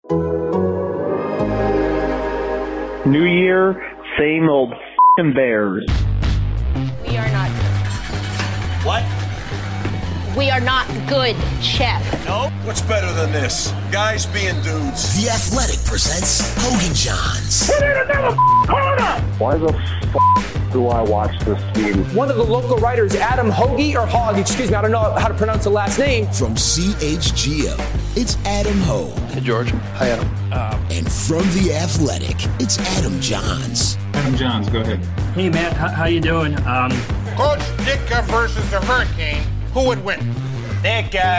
New year, same old f***ing Bears. We are not good. What? We are not good, Chef. No? What's better than this? Guys being dudes. The Athletic presents Hogan Johns. Why the f*** do I watch this team? One of the local writers, Adam Hoagie, or Hogg, excuse me, I don't know how to pronounce the last name. From CHGO, it's Adam Hogue. Hey, George. Hi, Adam. And from The Athletic, it's Adam Johns. Adam Johns, go ahead. Hey, Matt, how you doing? Coach Ditka versus the Hurricane. Who would win? Ditka.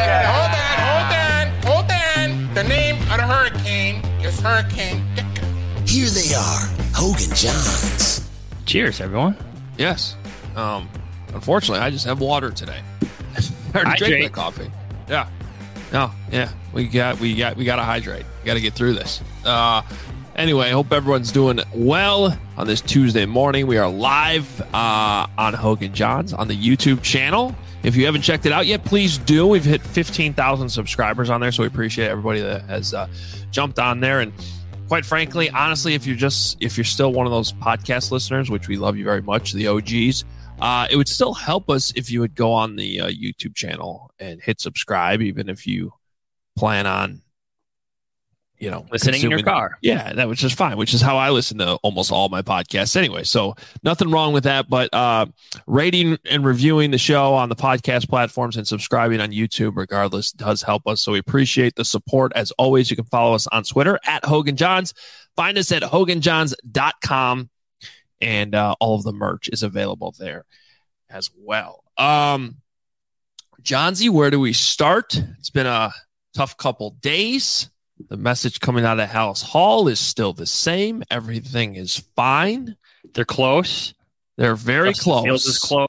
Hold on. The name of the Hurricane is Hurricane Ditka. Here they are, Hogan Johns. Cheers, everyone. Yes. Unfortunately, I just have water today. I already drank my coffee. Yeah. No. Yeah. We got to hydrate. We got to get through this. Anyway, I hope everyone's doing well on this Tuesday morning. We are live on Hogan Johns on the YouTube channel. If you haven't checked it out yet, please do. We've hit 15,000 subscribers on there, so we appreciate everybody that has jumped on there. And quite frankly, honestly, if you're still one of those podcast listeners, which we love you very much, the OGs, it would still help us if you would go on the YouTube channel and hit subscribe, even if you plan on, listening in your car. Yeah, that was just fine, which is how I listen to almost all my podcasts anyway. So nothing wrong with that, but rating and reviewing the show on the podcast platforms and subscribing on YouTube regardless does help us. So we appreciate the support. As always, you can follow us on Twitter at Hogan Johns. Find us at hoganjohns.com, and all of the merch is available there as well. Johnsy, where do we start? It's been a tough couple days. The message coming out of Hallis Hall is still the same. Everything is fine. They're close. They're very close. Fields is close.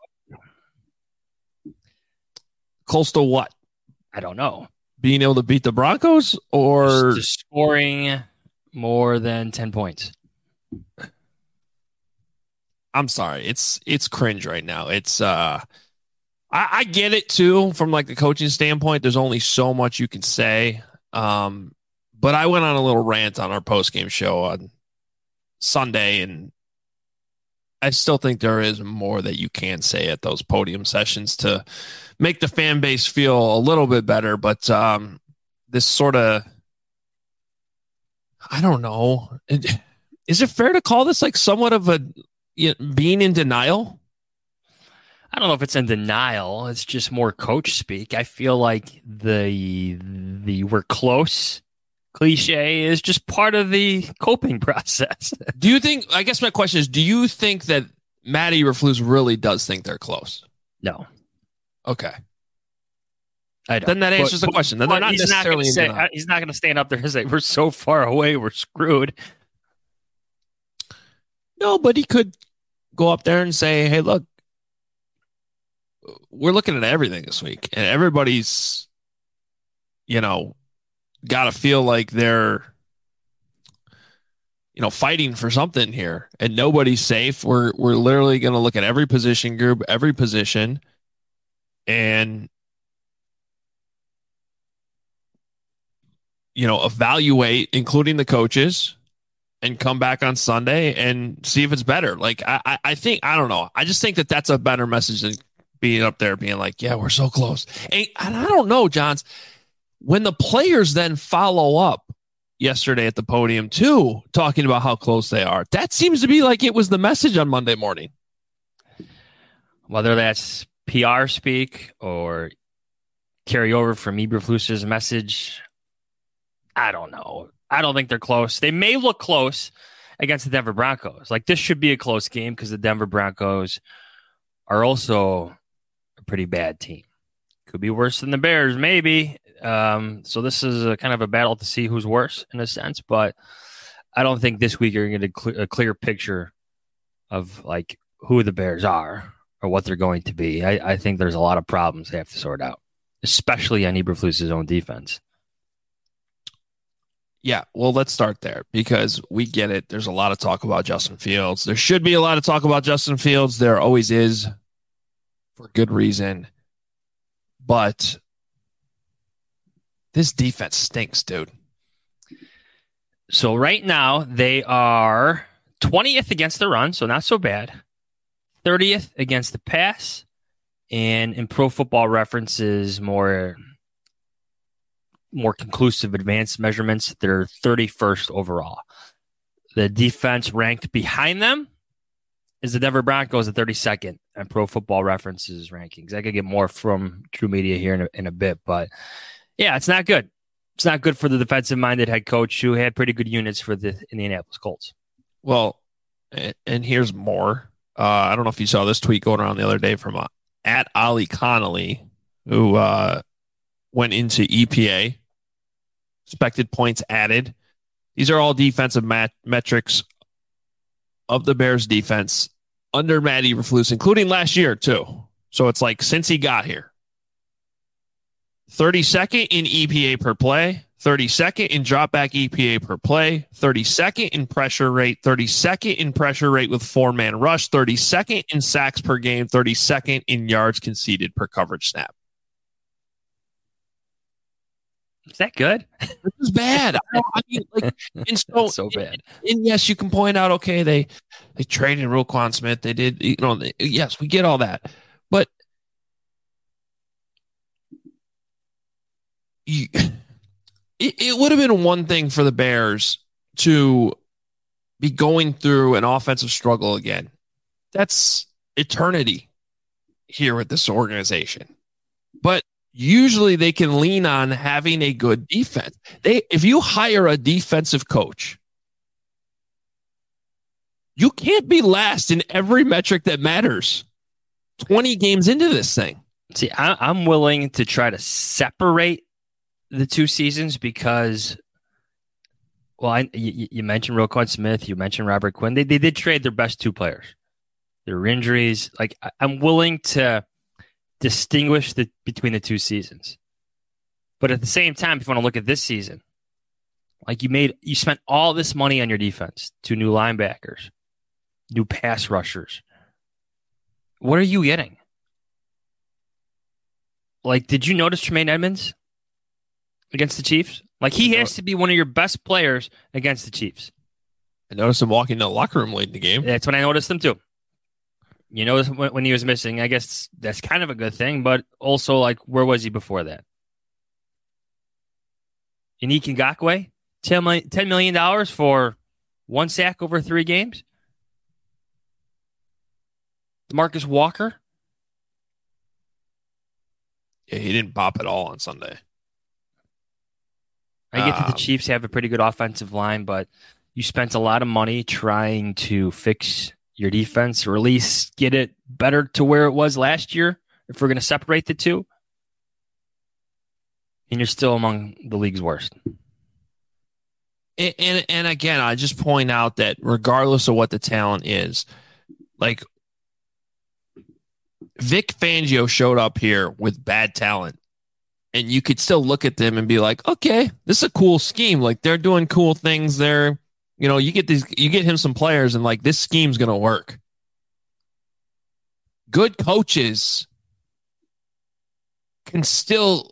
Close to what? I don't know. Being able to beat the Broncos or just scoring more than 10 points. I'm sorry. It's cringe right now. It's I get it too from like the coaching standpoint. There's only so much you can say. But I went on a little rant on our post-game show on Sunday, and I still think there is more that you can say at those podium sessions to make the fan base feel a little bit better. But this sort of, I don't know. Is it fair to call this like somewhat of a being in denial? I don't know if it's in denial. It's just more coach speak. I feel like the we're close cliche is just part of the coping process. Do you think, I guess my question is, do you think that Matt Eberflus really does think they're close? No. Okay. I don't. Then that answers the question. Then they're not necessarily he's not going to stand up there and say, we're so far away, we're screwed. No, but he could go up there and say, hey, look, we're looking at everything this week, and everybody's, got to feel like they're, fighting for something here, and nobody's safe. We're literally going to look at every position group, every position, and evaluate, including the coaches, and come back on Sunday and see if it's better. Like I think, I don't know. I just think that that's a better message than being up there being like, yeah, we're so close. And I don't know, Johns, when the players then follow up yesterday at the podium too, talking about how close they are, that seems to be like it was the message on Monday morning. Whether that's PR speak or carry over from Eberflus's message, I don't know. I don't think they're close. They may look close against the Denver Broncos. Like, this should be a close game because the Denver Broncos are also a pretty bad team. Could be worse than the Bears, maybe. So this is a kind of a battle to see who's worse in a sense, but I don't think this week you're going to get a clear picture of like who the Bears are or what they're going to be. I think there's a lot of problems they have to sort out, especially on Eberflus's own defense. Yeah, well, let's start there because we get it. There's a lot of talk about Justin Fields. There should be a lot of talk about Justin Fields. There always is, for good reason. But this defense stinks, dude. So right now they are 20th against the run, so not so bad. 30th against the pass, and in Pro Football Reference's more conclusive advanced measurements, they're 31st overall. The defense ranked behind them is the Denver Broncos at 32nd on Pro Football Reference's rankings. I could get more from True Media here in a bit, but yeah, it's not good. It's not good for the defensive-minded head coach who had pretty good units for the Indianapolis Colts. Well, and here's more. I don't know if you saw this tweet going around the other day from at Ollie Connolly, who went into EPA, expected points added. These are all defensive metrics of the Bears defense under Matt Eberflus, including last year too. So it's like since he got here. 32nd in EPA per play, 32nd in dropback EPA per play, 32nd in pressure rate, 32nd in pressure rate with 4-man rush, 32nd in sacks per game, 32nd in yards conceded per coverage snap. Is that good? This is bad. I mean, like, and so bad. And yes, you can point out, okay, they traded Roquan Smith. They did, yes, we get all that. But it would have been one thing for the Bears to be going through an offensive struggle again. That's eternity here with this organization. But usually they can lean on having a good defense. If you hire a defensive coach, you can't be last in every metric that matters 20 games into this thing. See, I'm willing to try to separate the two seasons because, well, you mentioned Roquan Smith, you mentioned Robert Quinn. They did trade their best two players. There were injuries. Like, I'm willing to distinguish between the two seasons. But at the same time, if you want to look at this season, like you spent all this money on your defense, 2 new linebackers, new pass rushers. What are you getting? Like, did you notice Tremaine Edmonds against the Chiefs? Like, he has to be one of your best players against the Chiefs. I noticed him walking to the locker room late in the game. That's when I noticed him too. You know, when he was missing, I guess that's kind of a good thing, but also, like, where was he before that? Yannick Ngakoue, $10 million for 1 sack over 3 games. Marcus Walker. Yeah, he didn't bop at all on Sunday. I get that the Chiefs have a pretty good offensive line, but you spent a lot of money trying to fix your defense, or at least get it better to where it was last year, if we're going to separate the two. And you're still among the league's worst. And again, I just point out that regardless of what the talent is, like, Vic Fangio showed up here with bad talent, and you could still look at them and be like, okay, this is a cool scheme. Like, they're doing cool things there. You know, you get him some players, and like, this scheme's going to work. Good coaches can still,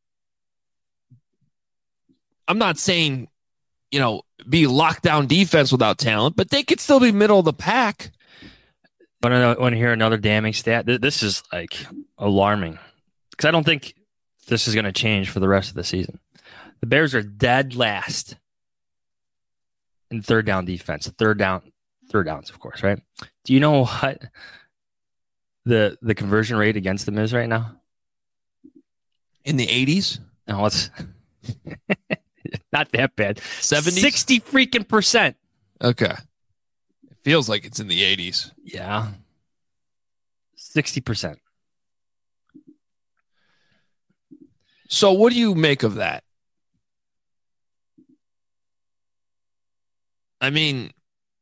I'm not saying, be lockdown defense without talent, but they could still be middle of the pack. Want to hear another damning stat? This is like alarming because I don't think this is going to change for the rest of the season. The Bears are dead last in third down defense. Third downs, of course, right? Do you know what the conversion rate against them is right now? In the 80s? No, it's not that bad. 70s? 60 freaking %. Okay. It feels like it's in the 80s. Yeah. 60%. So what do you make of that? I mean,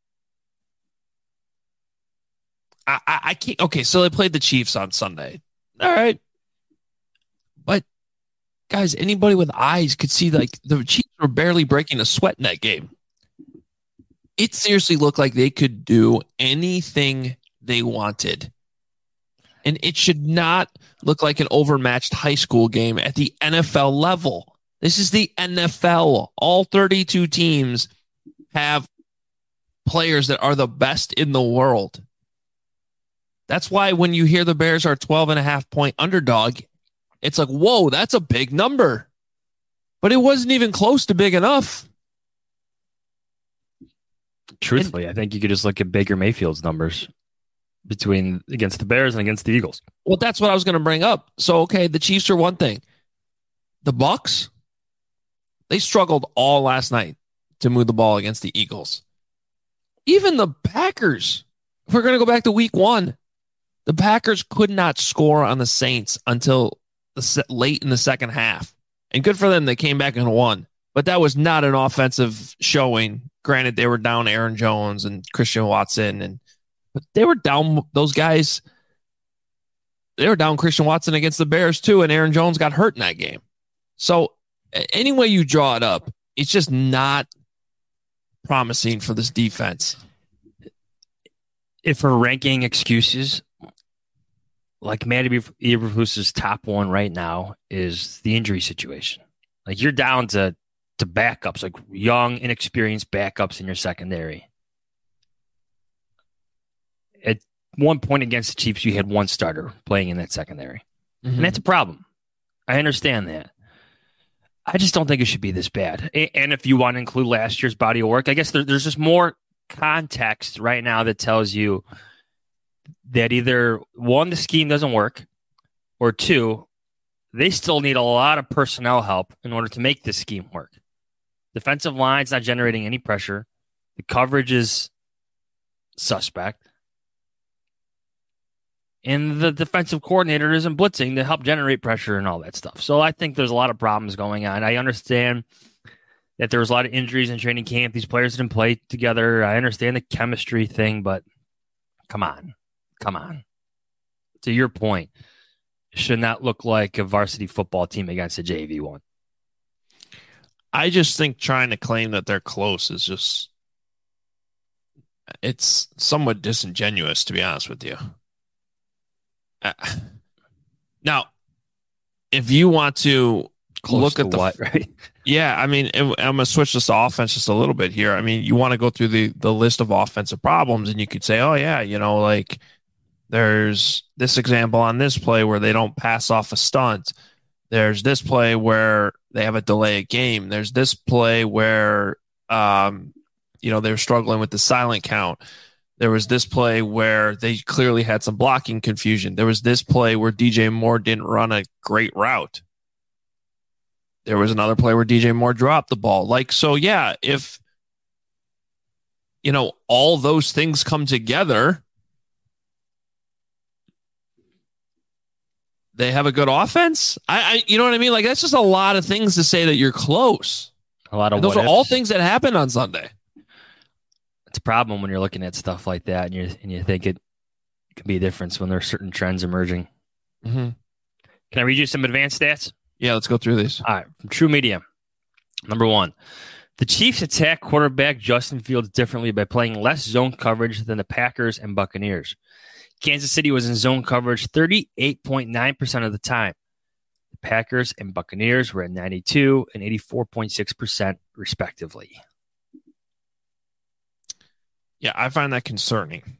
I can't. Okay, so they played the Chiefs on Sunday. All right. But, guys, anybody with eyes could see, like, the Chiefs were barely breaking a sweat in that game. It seriously looked like they could do anything they wanted. And it should not look like an overmatched high school game at the NFL level. This is the NFL. All 32 teams have players that are the best in the world. That's why when you hear the Bears are 12.5-point underdog, it's like, whoa, that's a big number. But it wasn't even close to big enough. Truthfully, I think you could just look at Baker Mayfield's numbers against the Bears and against the Eagles. Well, that's what I was going to bring up. So, okay, the Chiefs are one thing. The Bucs, they struggled all last night to move the ball against the Eagles. Even the Packers, if we're going to go back to week 1, the Packers could not score on the Saints until late in the second half. And good for them, they came back and won. But that was not an offensive showing. Granted, they were down Aaron Jones and Christian Watson, but they were down those guys. They were down Christian Watson against the Bears too, and Aaron Jones got hurt in that game. So any way you draw it up, it's just not promising for this defense. If we're ranking excuses, like Matty Eberflus's top one right now is the injury situation. Like you're down to backups, like young, inexperienced backups in your secondary. At one point against the Chiefs, you had one starter playing in that secondary. Mm-hmm. And that's a problem. I understand that. I just don't think it should be this bad. And if you want to include last year's body of work, I guess there's just more context right now that tells you that either, one, the scheme doesn't work, or two, they still need a lot of personnel help in order to make this scheme work. Defensive line's not generating any pressure. The coverage is suspect. And the defensive coordinator isn't blitzing to help generate pressure and all that stuff. So I think there's a lot of problems going on. I understand that there was a lot of injuries in training camp. These players didn't play together. I understand the chemistry thing, but come on. To your point, it should not look like a varsity football team against a JV one. I just think trying to claim that they're close is just, it's somewhat disingenuous, to be honest with you. Now, if you want to look at what, right? Yeah, I mean, I'm going to switch this to offense just a little bit here. I mean, you want to go through the list of offensive problems, and you could say, oh, yeah, like there's this example on this play where they don't pass off a stunt. There's this play where they have a delay of game. There's this play where, they're struggling with the silent count. There was this play where they clearly had some blocking confusion. There was this play where DJ Moore didn't run a great route. There was another play where DJ Moore dropped the ball. If, all those things come together, they have a good offense. You know what I mean? Like, that's just a lot of things to say that you're close. A lot of those are all things that happened on Sunday. It's a problem when you're looking at stuff like that, and you think it can be a difference when there are certain trends emerging. Mm-hmm. Can I read you some advanced stats? Yeah, let's go through these. All right, from True Media. Number 1, the Chiefs attack quarterback Justin Fields differently by playing less zone coverage than the Packers and Buccaneers. Kansas City was in zone coverage 38.9% of the time. The Packers and Buccaneers were at 92 and 84.6% respectively. Yeah, I find that concerning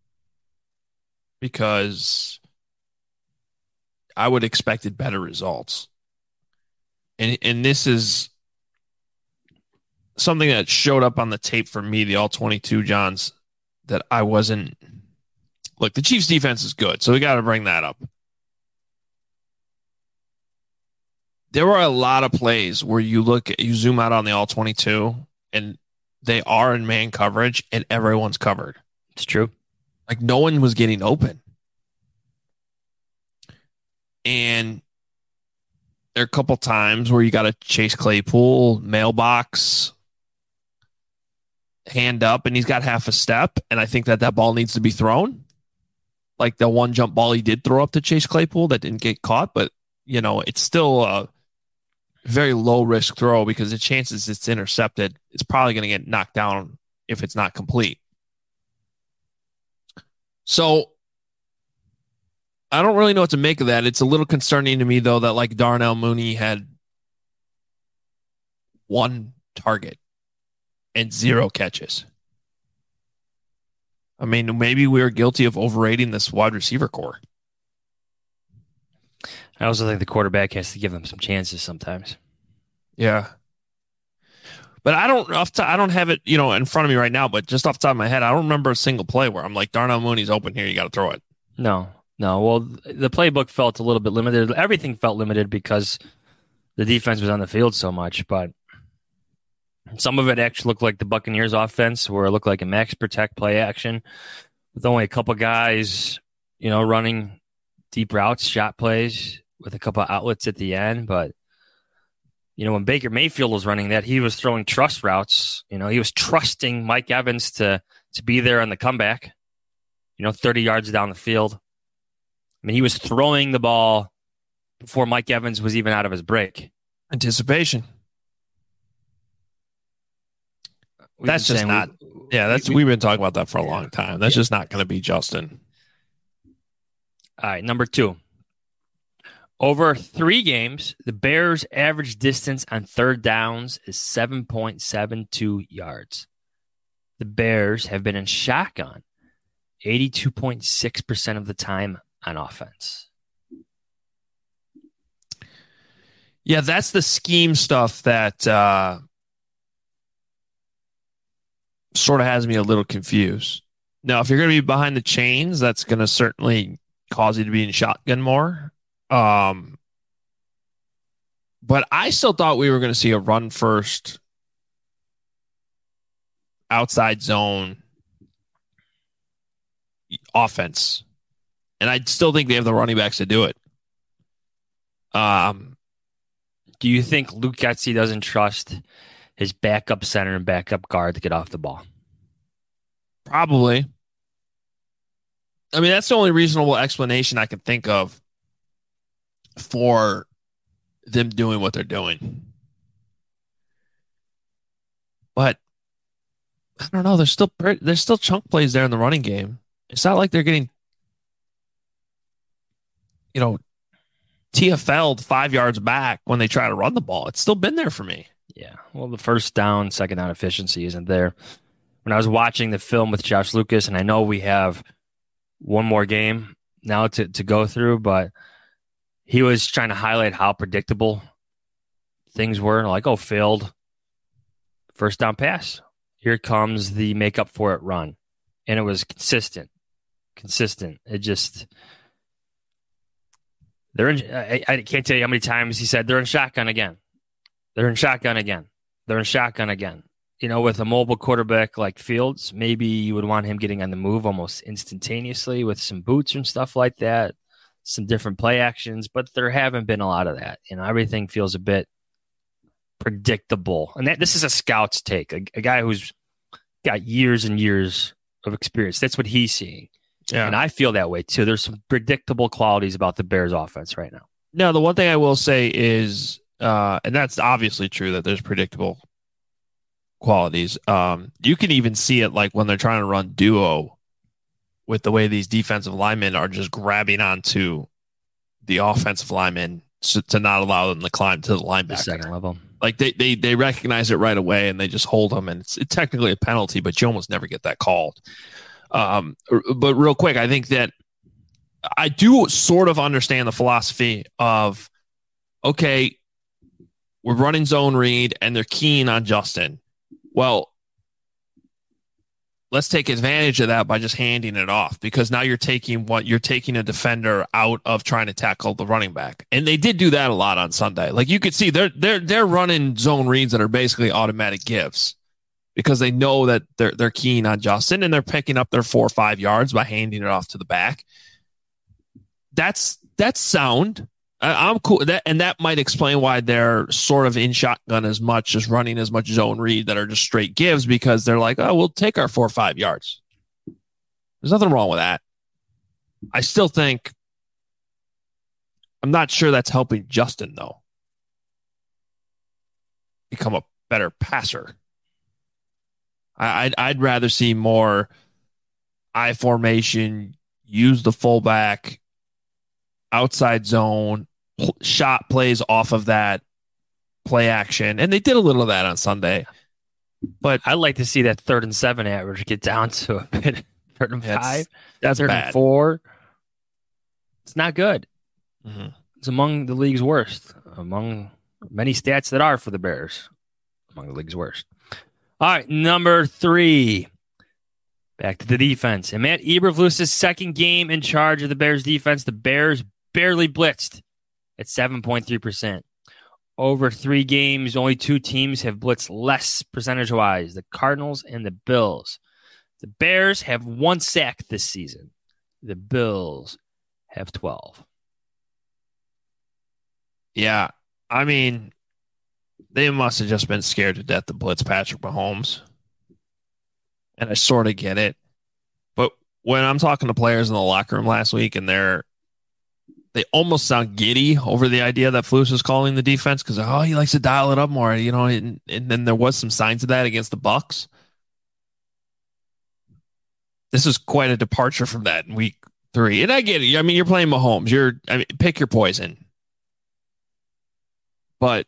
because I would have expected better results. And this is something that showed up on the tape for me, the All-22 Johns, that I wasn't. Look, the Chiefs' defense is good, so we got to bring that up. There were a lot of plays where you zoom out on the All-22, and they are in man coverage, and everyone's covered. It's true. Like, no one was getting open. And there are a couple times where you got to chase Claypool, mailbox, hand up, and he's got half a step, and I think that ball needs to be thrown. Like the one jump ball he did throw up to Chase Claypool that didn't get caught, but, it's still a very low-risk throw because the chances it's intercepted, it's probably going to get knocked down if it's not complete. So I don't really know what to make of that. It's a little concerning to me, though, that like Darnell Mooney had one target. and 0 catches. I mean, maybe we are guilty of overrating this wide receiver core. I also think the quarterback has to give them some chances sometimes. Yeah. But I don't have it, in front of me right now, but just off the top of my head, I don't remember a single play where I'm like, Darnell Mooney's open here, you got to throw it. No. Well, the playbook felt a little bit limited. Everything felt limited because the defense was on the field so much, but some of it actually looked like the Buccaneers offense, where it looked like a max protect play action with only a couple guys, running deep routes, shot plays with a couple outlets at the end. But, when Baker Mayfield was running that, he was throwing trust routes. He was trusting Mike Evans to be there on the comeback, 30 yards down the field. I mean, he was throwing the ball before Mike Evans was even out of his break. Anticipation. That's just not. We've been talking about that for a long time. That's just not going to be Justin. All right, number 2. Over 3 games, the Bears' average distance on third downs is 7.72 yards. The Bears have been in shotgun 82.6% of the time on offense. Yeah, that's the scheme stuff that sort of has me a little confused. Now, if you're going to be behind the chains, that's going to certainly cause you to be in shotgun more. But I still thought we were going to see a run first outside zone offense. And I still think they have the running backs to do it. Do you think Luke Getsy doesn't trust his backup center and backup guard to get off the ball? Probably. I mean, that's the only reasonable explanation I can think of for them doing what they're doing. But I don't know. There's still chunk plays there in the running game. It's not like they're getting, TFL'd 5 yards back when they try to run the ball. It's still been there for me. Yeah. Well, the first down, second down efficiency isn't there. When I was watching the film with Josh Lucas, and I know we have one more game now to go through, but he was trying to highlight how predictable things were. Like, failed first down pass. Here comes the make up for it run. And it was consistent. It just, I can't tell you how many times he said they're in shotgun again. With a mobile quarterback like Fields, maybe you would want him getting on the move almost instantaneously with some boots and stuff like that, some different play actions, but there haven't been a lot of that. Everything feels a bit predictable. And this is a scout's take, a guy who's got years and years of experience. That's what he's seeing. Yeah. And I feel that way too. There's some predictable qualities about the Bears offense right now. No, the one thing I will say is, and that's obviously true, that there's predictable qualities. You can even see it like when they're trying to run duo with the way these defensive linemen are just grabbing onto the offensive linemen to not allow them to climb to the linebacker. The second level. Like they recognize it right away and they just hold them, and it's technically a penalty, but you almost never get that called. But real quick, I think that I do sort of understand the philosophy of, okay, we're running zone read and they're keen on Justin. Well, let's take advantage of that by just handing it off, because now you're taking a defender out of trying to tackle the running back. And they did do that a lot on Sunday. Like you could see they're running zone reads that are basically automatic gives because they know that they're keen on Justin and they're picking up their 4 or 5 yards by handing it off to the back. That's sound. I'm cool. That might explain why they're sort of in shotgun as much, just running as much zone read that are just straight gives, because they're like, oh, we'll take our 4 or 5 yards. There's nothing wrong with that. I still think, I'm not sure that's helping Justin, though, become a better passer. I'd rather see more I formation, use the fullback, outside zone, shot plays off of that play action. And they did a little of that on Sunday. But I'd like to see that 3rd and 7 average get down to a bit. 3rd and 5. That's 3rd bad. and 4. It's not good. Mm-hmm. It's among the league's worst. Among many stats that are for the Bears. Among the league's worst. All right, number 3. Back to the defense. And Matt Eberflus's second game in charge of the Bears defense. The Bears barely blitzed at 7.3%. Over 3 games, only 2 teams have blitzed less percentage-wise, the Cardinals and the Bills. The Bears have 1 sack this season. The Bills have 12. Yeah, I mean, they must have just been scared to death to blitz Patrick Mahomes. And I sort of get it. But when I'm talking to players in the locker room last week and they almost sound giddy over the idea that Flus is calling the defense because, he likes to dial it up more, and then there was some signs of that against the Bucs. This is quite a departure from that in week 3. And I get it. I mean, you're playing Mahomes. Pick your poison. But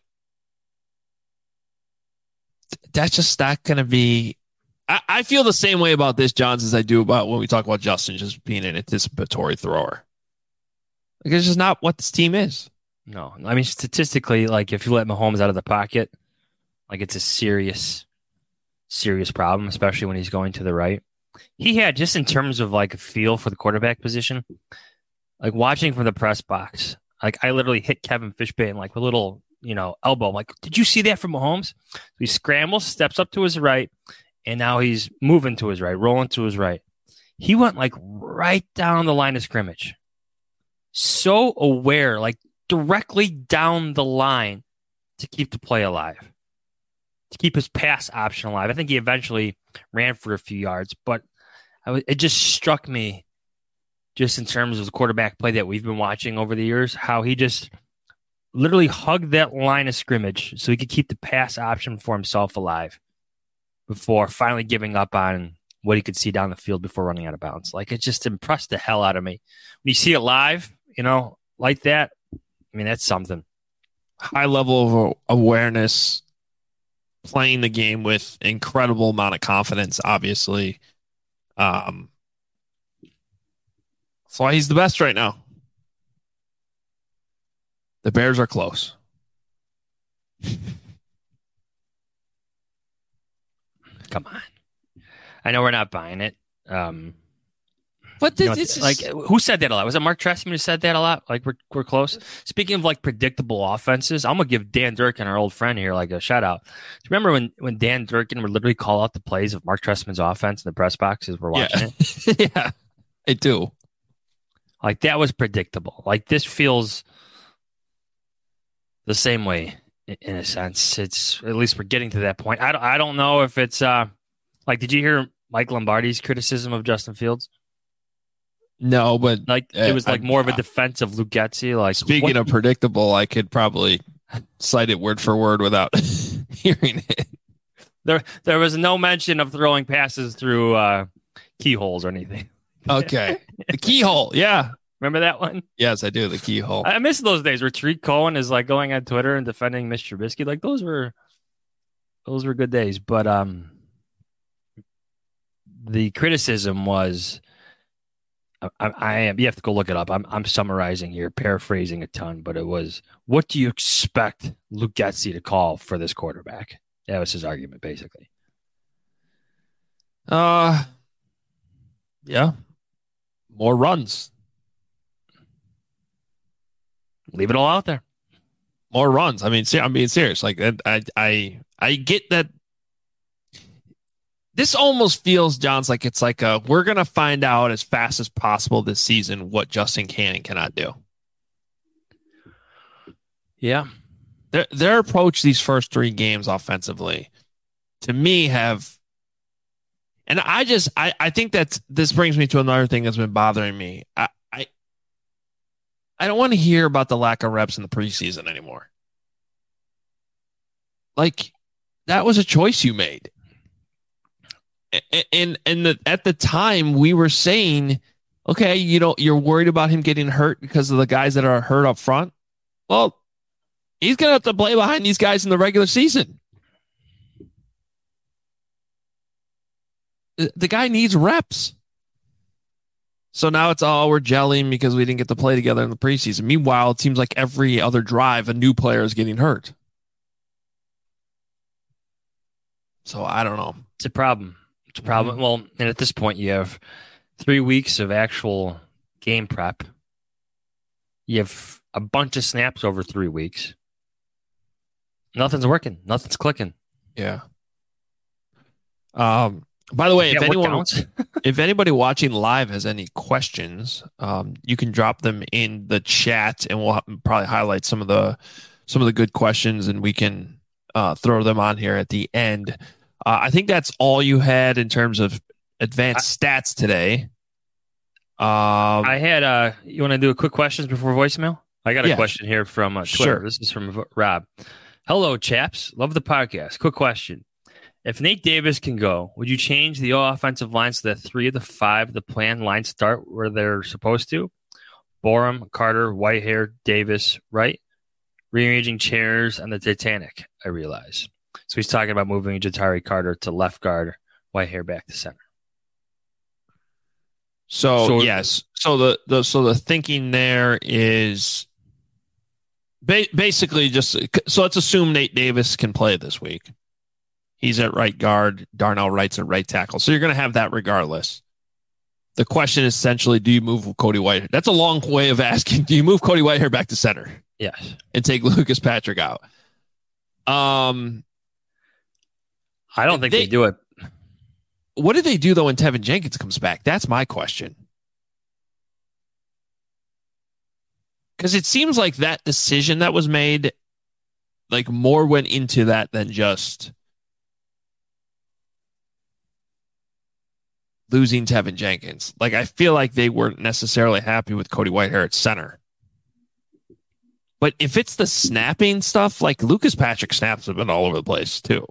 that's just not going to be... I feel the same way about this, Johns, as I do about when we talk about Justin just being an anticipatory thrower. Like, it's just not what this team is. No. I mean, statistically, like, if you let Mahomes out of the pocket, like, it's a serious, serious problem, especially when he's going to the right. He had, just in terms of, like, a feel for the quarterback position, like, watching from the press box, like, I literally hit Kevin Fishbane, like, with a little, elbow. I'm like, did you see that from Mahomes? He scrambles, steps up to his right, and now he's moving to his right, rolling to his right. He went, like, right down the line of scrimmage. So aware, like, directly down the line to keep the play alive, to keep his pass option alive. I think he eventually ran for a few yards, but it just struck me, just in terms of the quarterback play that we've been watching over the years, how he just literally hugged that line of scrimmage so he could keep the pass option for himself alive before finally giving up on what he could see down the field before running out of bounds. Like, it just impressed the hell out of me. When you see it live, like that, I mean, that's something. High level of awareness, playing the game with incredible amount of confidence, obviously. That's why he's the best right now. The Bears are close. Come on. I know we're not buying it. But it's like, who said that a lot? Was it Mark Trestman who said that a lot? Like, we're close. Speaking of, like, predictable offenses, I'm gonna give Dan Durkin, our old friend here, like, a shout out. Do you remember when Dan Durkin would literally call out the plays of Mark Trestman's offense in the press box as we're watching it? Yeah, I do. Like, that was predictable. Like, this feels the same way in a sense. It's, at least we're getting to that point. I don't know if it's like, did you hear Mike Lombardi's criticism of Justin Fields? No, but like, it was like more of a defense of Luke Getsy. Like, speaking of predictable, I could probably cite it word for word without hearing it. There was no mention of throwing passes through keyholes or anything. Okay, the keyhole, yeah. Remember that one? Yes, I do. The keyhole. I miss those days where Tariq Cohen is like going on Twitter and defending Mr. Trubisky. Like, those were good days. But the criticism was, you have to go look it up. I'm summarizing here, paraphrasing a ton, but it was, what do you expect Luke Getsy to call for this quarterback? That was his argument, basically. Yeah. More runs. Leave it all out there. More runs. I mean, I'm being serious. Like, I get that. This almost feels, Johns, like it's like we're going to find out as fast as possible this season what Justin can and cannot do. Yeah. Their approach these first 3 games offensively, to me, have... And I think that this brings me to another thing that's been bothering me. I don't want to hear about the lack of reps in the preseason anymore. Like, that was a choice you made. And at the time, we were saying, okay, you're worried about him getting hurt because of the guys that are hurt up front. Well, he's going to have to play behind these guys in the regular season. The guy needs reps. So now it's we're gelling because we didn't get to play together in the preseason. Meanwhile, it seems like every other drive, a new player is getting hurt. So I don't know. It's a problem. Mm-hmm. Well, and at this point, you have 3 weeks of actual game prep. You have a bunch of snaps over 3 weeks. Nothing's working. Nothing's clicking. Yeah. By the way, if anybody watching live has any questions, you can drop them in the chat, and we'll probably highlight some of the good questions, and we can throw them on here at the end. I think that's all you had in terms of advanced stats today. I had you want to do a quick questions before voicemail? I got a question here from Twitter. Sure. This is from Rob. Hello, chaps. Love the podcast. Quick question. If Nate Davis can go, would you change the offensive line so that 3 of the 5 of the planned lines start where they're supposed to? Borum, Carter, Whitehair, Davis, right? Rearranging chairs on the Titanic, I realize. So he's talking about moving Ja'Tyre Carter to left guard, Whitehair back to center. So yes. So the thinking there is basically just so let's assume Nate Davis can play this week. He's at right guard. Darnell Wright's at right tackle. So you're going to have that regardless. The question is essentially, do you move Cody Whitehair? That's a long way of asking. Do you move Cody Whitehair back to center? Yes. And take Lucas Patrick out? I don't think they do it. What do they do, though, when Tevin Jenkins comes back? That's my question. Because it seems like that decision that was made, like more went into that than just losing Tevin Jenkins. Like, I feel like they weren't necessarily happy with Cody Whitehair at center. But if it's the snapping stuff, like Lucas Patrick snaps have been all over the place too.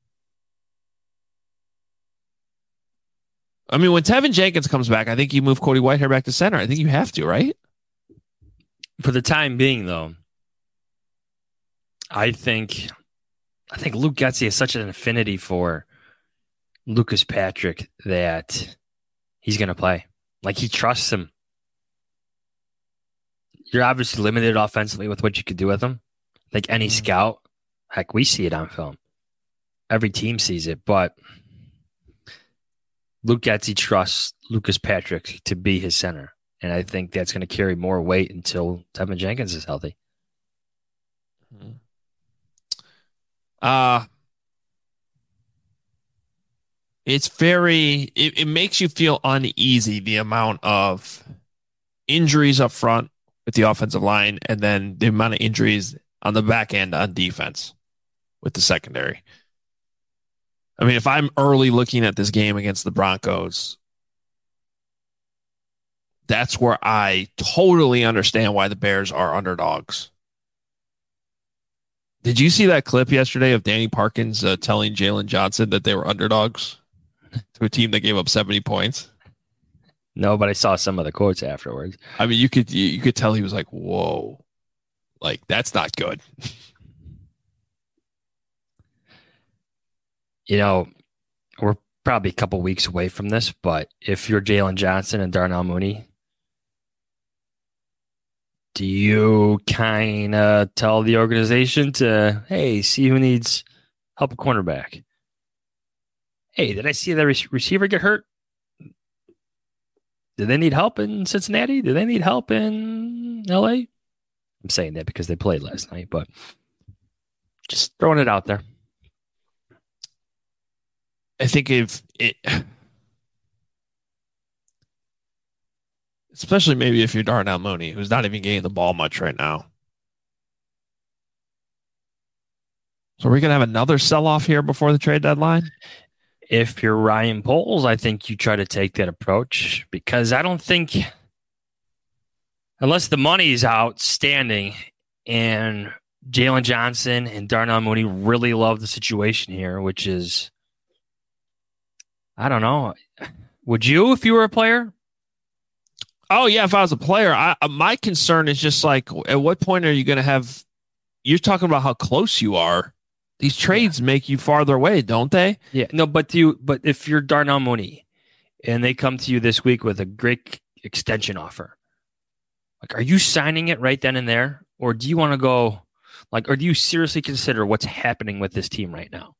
I mean, when Tevin Jenkins comes back, I think you move Cody Whitehair back to center. I think you have to, right? For the time being, though, I think Luke Getsy has such an affinity for Lucas Patrick that he's going to play. Like, he trusts him. You're obviously limited offensively with what you could do with him. Like any scout, heck, we see it on film. Every team sees it, but Luke Getsy trusts Lucas Patrick to be his center. And I think that's going to carry more weight until Tevin Jenkins is healthy. It makes you feel uneasy, the amount of injuries up front with the offensive line, and then the amount of injuries on the back end on defense with the secondary. I mean, if I'm early looking at this game against the Broncos, that's where I totally understand why the Bears are underdogs. Did you see that clip yesterday of Danny Parkins telling Jalen Johnson that they were underdogs to a team that gave up 70 points? No, but I saw some of the quotes afterwards. I mean, you could tell he was like, whoa, like, that's not good. You know, we're probably a couple weeks away from this, but if you're Jalen Johnson and Darnell Mooney, do you kind of tell the organization to, hey, see who needs help at cornerback? Hey, did I see the receiver get hurt? Do they need help in Cincinnati? Do they need help in LA? I'm saying that because they played last night, but just throwing it out there. I think especially maybe if you're Darnell Mooney, who's not even getting the ball much right now. So are we going to have another sell-off here before the trade deadline? If you're Ryan Poles, I think you try to take that approach, because I don't think, unless the money is outstanding and Jalen Johnson and Darnell Mooney really love the situation here, which is, I don't know. Would you if you were a player? Oh, yeah, if I was a player. My concern is just like, at what point are you going to have – you're talking about how close you are. These trades make you farther away, don't they? Yeah, no, but if you're Darnell Mooney and they come to you this week with a great extension offer, like, are you signing it right then and there, or do you want to go, like, or do you seriously consider what's happening with this team right now?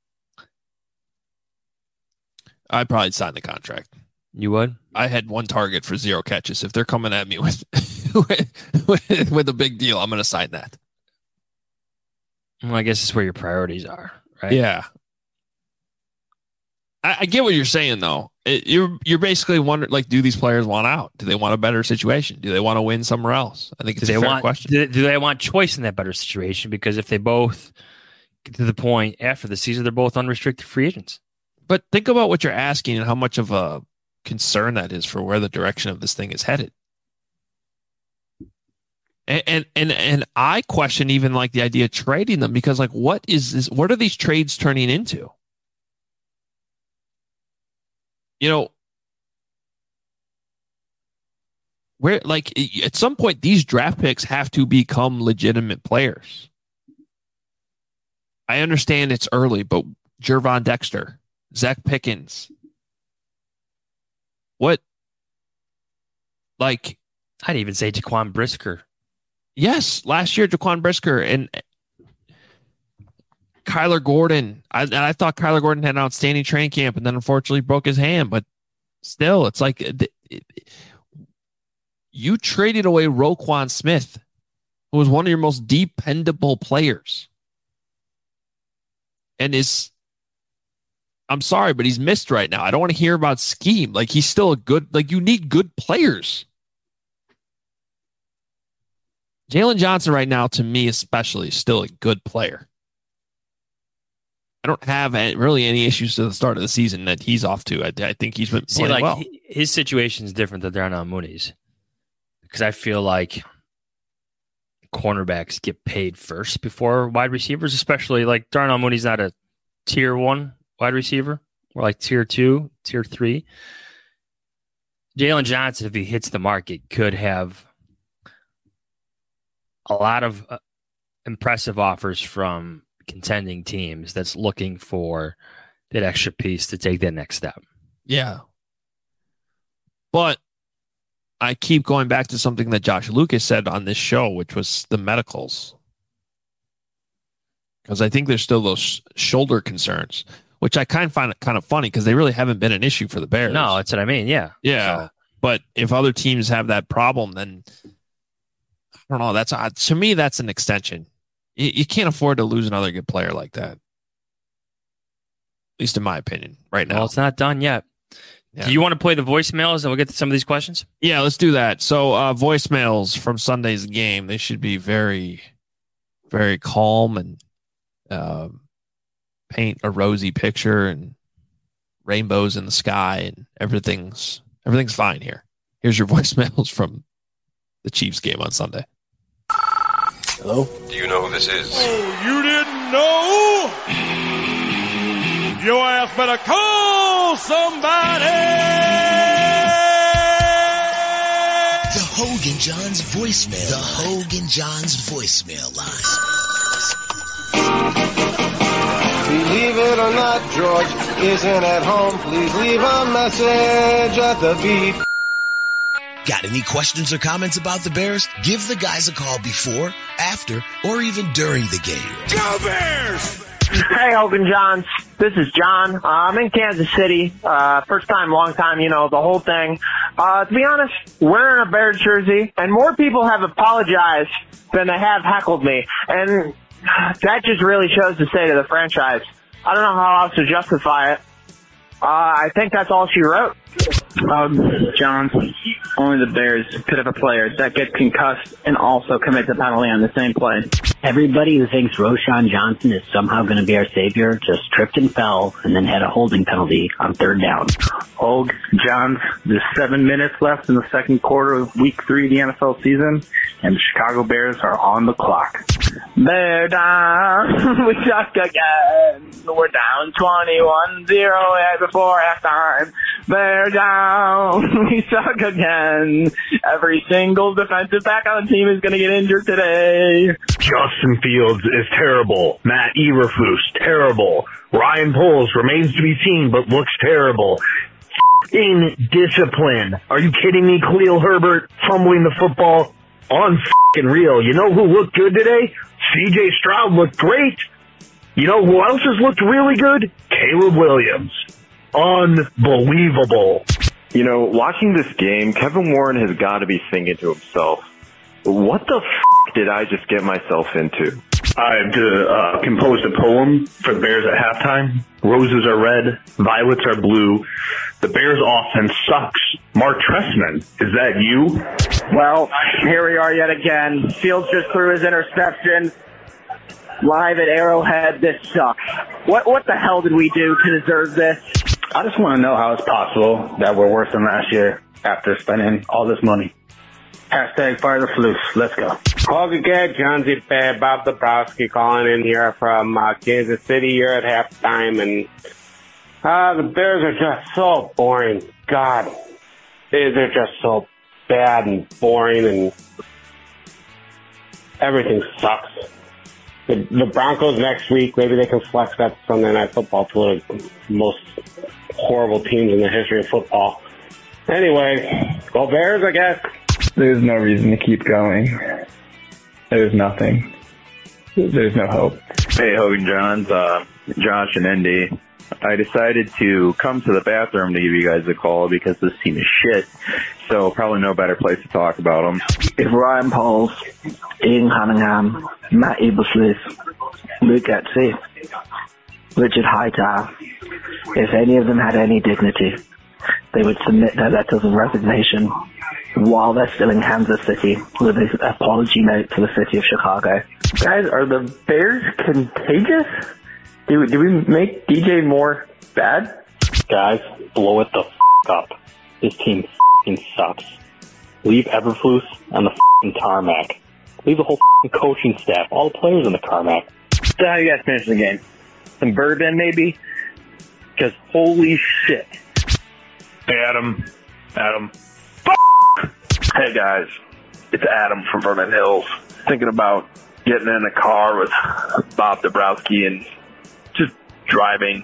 I'd probably sign the contract. You would? I had 1 target for 0 catches. If they're coming at me with with a big deal, I'm going to sign that. Well, I guess it's where your priorities are, right? Yeah. I get what you're saying, though. You're basically wondering, like, do these players want out? Do they want a better situation? Do they want to win somewhere else? I think it's a fair question. Do they want choice in that better situation? Because if they both get to the point after the season, they're both unrestricted free agents. But think about what you're asking and how much of a concern that is for where the direction of this thing is headed. And I question even like the idea of trading them, because like what is this? What are these trades turning into? You know, where like at some point these draft picks have to become legitimate players. I understand it's early, but Gervon Dexter, Zach Pickens, what? Like, I'd even say Jaquan Brisker. Yes, last year Jaquan Brisker and Kyler Gordon. I thought Kyler Gordon had an outstanding training camp, and then unfortunately broke his hand. But still, it's like you traded away Roquan Smith, who was one of your most dependable players, and I'm sorry, but he's missed right now. I don't want to hear about scheme. Like, he's still a good. Like, you need good players. Jalen Johnson right now, to me especially, is still a good player. I don't have really any issues to the start of the season that he's off to. I think he's been playing well. His situation is different than Darnell Mooney's, because I feel like cornerbacks get paid first before wide receivers, especially like Darnell Mooney's not a tier 1 wide receiver, or like tier 2, tier 3. Jalen Johnson, if he hits the market, could have a lot of impressive offers from contending teams that's looking for that extra piece to take that next step. Yeah. But I keep going back to something that Josh Lucas said on this show, which was the medicals. Because I think there's still those shoulder concerns, which I find it kind of funny because they really haven't been an issue for the Bears. No, that's what I mean. Yeah. Yeah. So. But if other teams have that problem, then I don't know. To me, that's an extension. You can't afford to lose another good player like that. At least in my opinion, right now. Well, it's not done yet. Yeah. Do you want to play the voicemails and we'll get to some of these questions? Yeah, let's do that. So voicemails from Sunday's game, they should be very, very calm and paint a rosy picture and rainbows in the sky and everything's fine here. Here's your voicemails from the Chiefs game on Sunday. Hello? Do you know who this is? Oh, you didn't know? Your ass better call somebody! The Hogan Johns voicemail. The Hogan Johns voicemail line. Believe it or not, George isn't at home. Please leave a message at the beep. Got any questions or comments about the Bears? Give the guys a call before, after, or even during the game. Go Bears! Hey, Hogan Johns. This is John. I'm in Kansas City. First time, long time, the whole thing. To be honest, wearing a Bears jersey, and more people have apologized than they have heckled me. And that just really shows the state of the franchise. I don't know how else to justify it. I think that's all she wrote. Johns, only the Bears could have a player that gets concussed and also commits a penalty on the same play. Everybody who thinks Roschon Johnson is somehow going to be our savior just tripped and fell and then had a holding penalty on third down. Hogue, Johns, there's 7 minutes left in the second quarter of week 3 of the NFL season, and the Chicago Bears are on the clock. Bear down, we suck again. We're down 21-0 before halftime. Bear Bear down. We suck again. Every single defensive back on the team is going to get injured today. Justin Fields is terrible. Matt Eberflus, terrible. Ryan Poles remains to be seen, but looks terrible. F***ing discipline. Are you kidding me? Khalil Herbert fumbling the football on f***ing real. You know who looked good today? C.J. Stroud looked great. You know who else has looked really good? Caleb Williams. Unbelievable. You know, watching this game, Kevin Warren has got to be thinking to himself, what the f*** did I just get myself into? I've composed a poem for the Bears at halftime. Roses are red, violets are blue. The Bears offense sucks. Mark Trestman, is that you? Well, here we are yet again. Fields just threw his interception. Live at Arrowhead, this sucks. What the hell did we do to deserve this? I just want to know how it's possible that we're worse than last year after spending all this money. Hashtag fire the flus. Let's go. Okay, John Z. Bob Dabrowski calling in here from Kansas City here at halftime, and the Bears are just so boring. God, they're just so bad and boring, and everything sucks. The Broncos next week, maybe they can flex that Sunday Night Football to one of the most horrible teams in the history of football. Anyway, go Bears, I guess. There's no reason to keep going. There's nothing. There's no hope. Hey, Hogan Johns, Josh and Indy. I decided to come to the bathroom to give you guys a call because this team is shit. So probably no better place to talk about them. If Ryan Poles, Ian Cunningham, Matt Eberflus, Luke Getsy, Richard Hightower, if any of them had any dignity, they would submit their letters of resignation while they're still in Kansas City with an apology note to the city of Chicago. Guys, are the Bears contagious? Do we make DJ Moore bad? Guys, blow it the up. This team sucks. Leave Eberflus on the tarmac. Leave the whole coaching staff, all the players in the tarmac. So how you guys finish the game? Some bourbon, maybe? Because holy shit. Hey, Adam. Hey, guys. It's Adam from Vernon Hills. Thinking about getting in a car with Bob Dabrowski and just driving,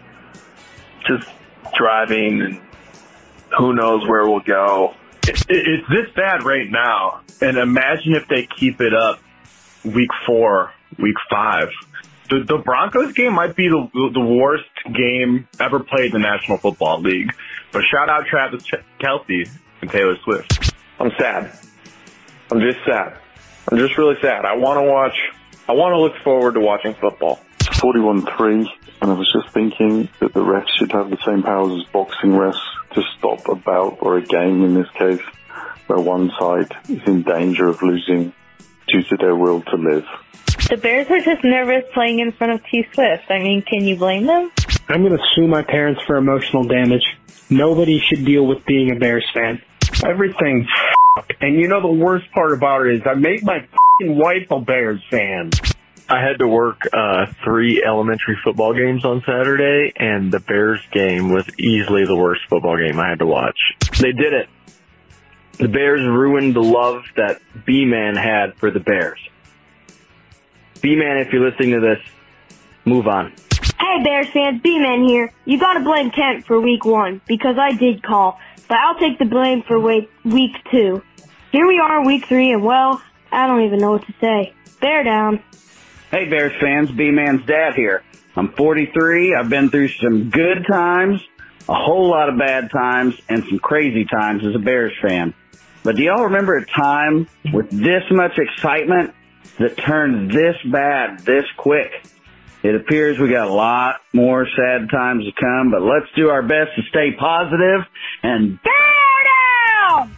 and who knows where we'll go. It's this bad right now, and imagine if they keep it up week 4, week 5. The Broncos game might be the worst game ever played in the National Football League. But shout out Travis Kelce and Taylor Swift. I'm sad. I'm just sad. I'm just really sad. I want to look forward to watching football. It's 41-3, and I was just thinking that the refs should have the same powers as boxing refs to stop a bout or a game in this case, where one side is in danger of losing due to their will to live. The Bears are just nervous playing in front of T. Swift. I mean, can you blame them? I'm going to sue my parents for emotional damage. Nobody should deal with being a Bears fan. Everything's and you know the worst part about it is I made my wife a Bears fan. I had to work 3 elementary football games on Saturday, and the Bears game was easily the worst football game I had to watch. They did it. The Bears ruined the love that B-Man had for the Bears. B-Man, if you're listening to this, move on. Hey, Bears fans, B-Man here. You gotta blame Kent for week 1, because I did call, but I'll take the blame for week 2. Here we are, week 3, and well, I don't even know what to say. Bear down. Hey, Bears fans, B-Man's dad here. I'm 43, I've been through some good times, a whole lot of bad times, and some crazy times as a Bears fan. But do y'all remember a time with this much excitement that turned this bad this quick? It appears we got a lot more sad times to come, but let's do our best to stay positive and bear down!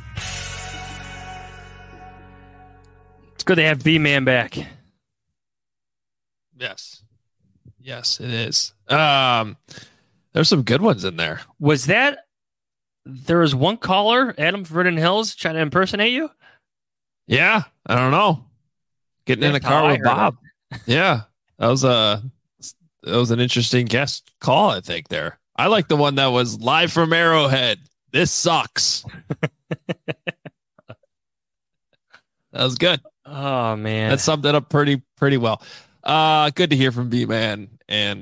It's good to have B-Man back. Yes, it is. There's some good ones in there. Was there was one caller, Adam from Vernon Hills, trying to impersonate you? Yeah, I don't know. Getting in a car with Bob. Yeah, that was an interesting guest call, I think, there. I like the one that was live from Arrowhead. This sucks. That was good. Oh man, that summed it up pretty well. Good to hear from B-Man. And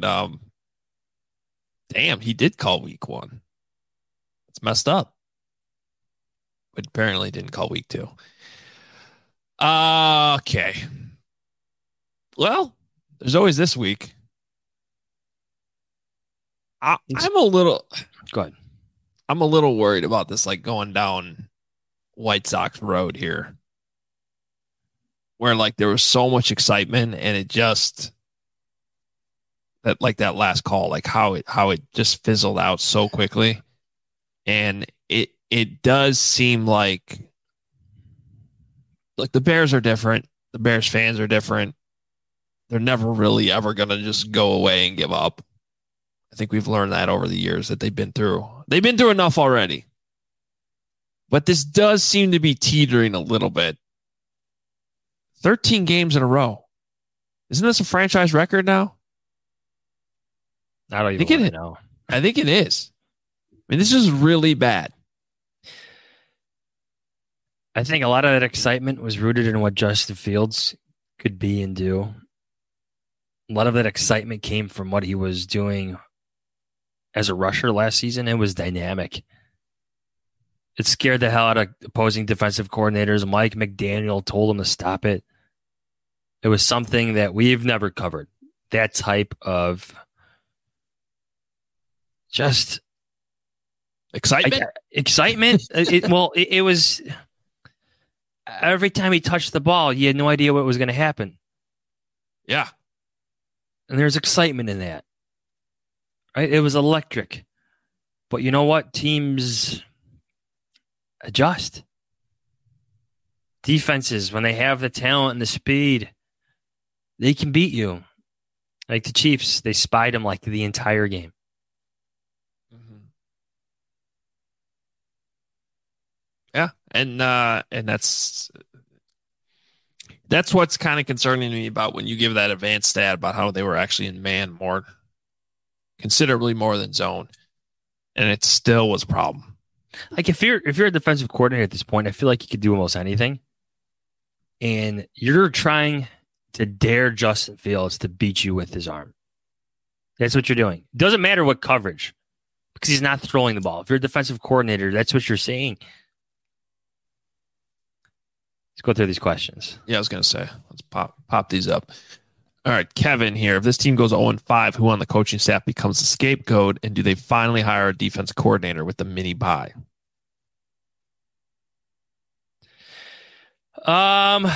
damn, he did call week 1. It's messed up. But apparently didn't call week 2. Okay. Well, there's always this week. I'm a little. Go ahead. I'm a little worried about this, like going down White Sox road here, where like there was so much excitement and it just that last call, like how it just fizzled out so quickly, and it does seem like the Bears are different. The Bears fans are different. They're never really ever going to just go away and give up. I think we've learned that over the years that they've been through. They've been through enough already. But this does seem to be teetering a little bit. 13 games in a row. Isn't this a franchise record now? I don't even know. I think it is. I mean, this is really bad. I think a lot of that excitement was rooted in what Justin Fields could be and do. A lot of that excitement came from what he was doing as a rusher last season. It was dynamic. It scared the hell out of opposing defensive coordinators. Mike McDaniel told him to stop it. It was something that we've never covered. That type of just excitement. It was every time he touched the ball, you had no idea what was going to happen. Yeah. And there's excitement in that. Right? It was electric. But you know what? Teams adjust. Defenses, when they have the talent and the speed, they can beat you. Like the Chiefs, they spied him like the entire game. Yeah, and that's what's kind of concerning me about when you give that advanced stat about how they were actually in man considerably more than zone, and it still was a problem. Like if you're a defensive coordinator at this point, I feel like you could do almost anything, and you're trying to dare Justin Fields to beat you with his arm. That's what you're doing. It doesn't matter what coverage, because he's not throwing the ball. If you're a defensive coordinator, that's what you're saying. Let's go through these questions. Yeah, I was going to say, let's pop these up. All right, Kevin here. If this team goes 0-5, who on the coaching staff becomes the scapegoat, and do they finally hire a defense coordinator with the mini bye? I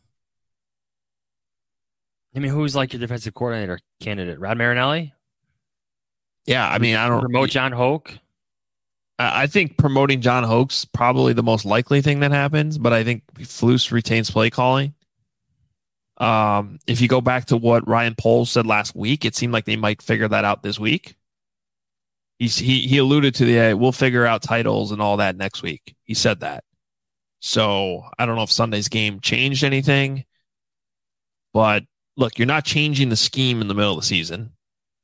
mean, who's like your defensive coordinator candidate? Rod Marinelli? Yeah, I mean, I don't promote John Hoke. I think promoting John Hoke's probably the most likely thing that happens, but I think Flus retains play calling. If you go back to what Ryan Poles said last week, it seemed like they might figure that out this week. He alluded to we'll figure out titles and all that next week. He said that. So I don't know if Sunday's game changed anything, but look, you're not changing the scheme in the middle of the season.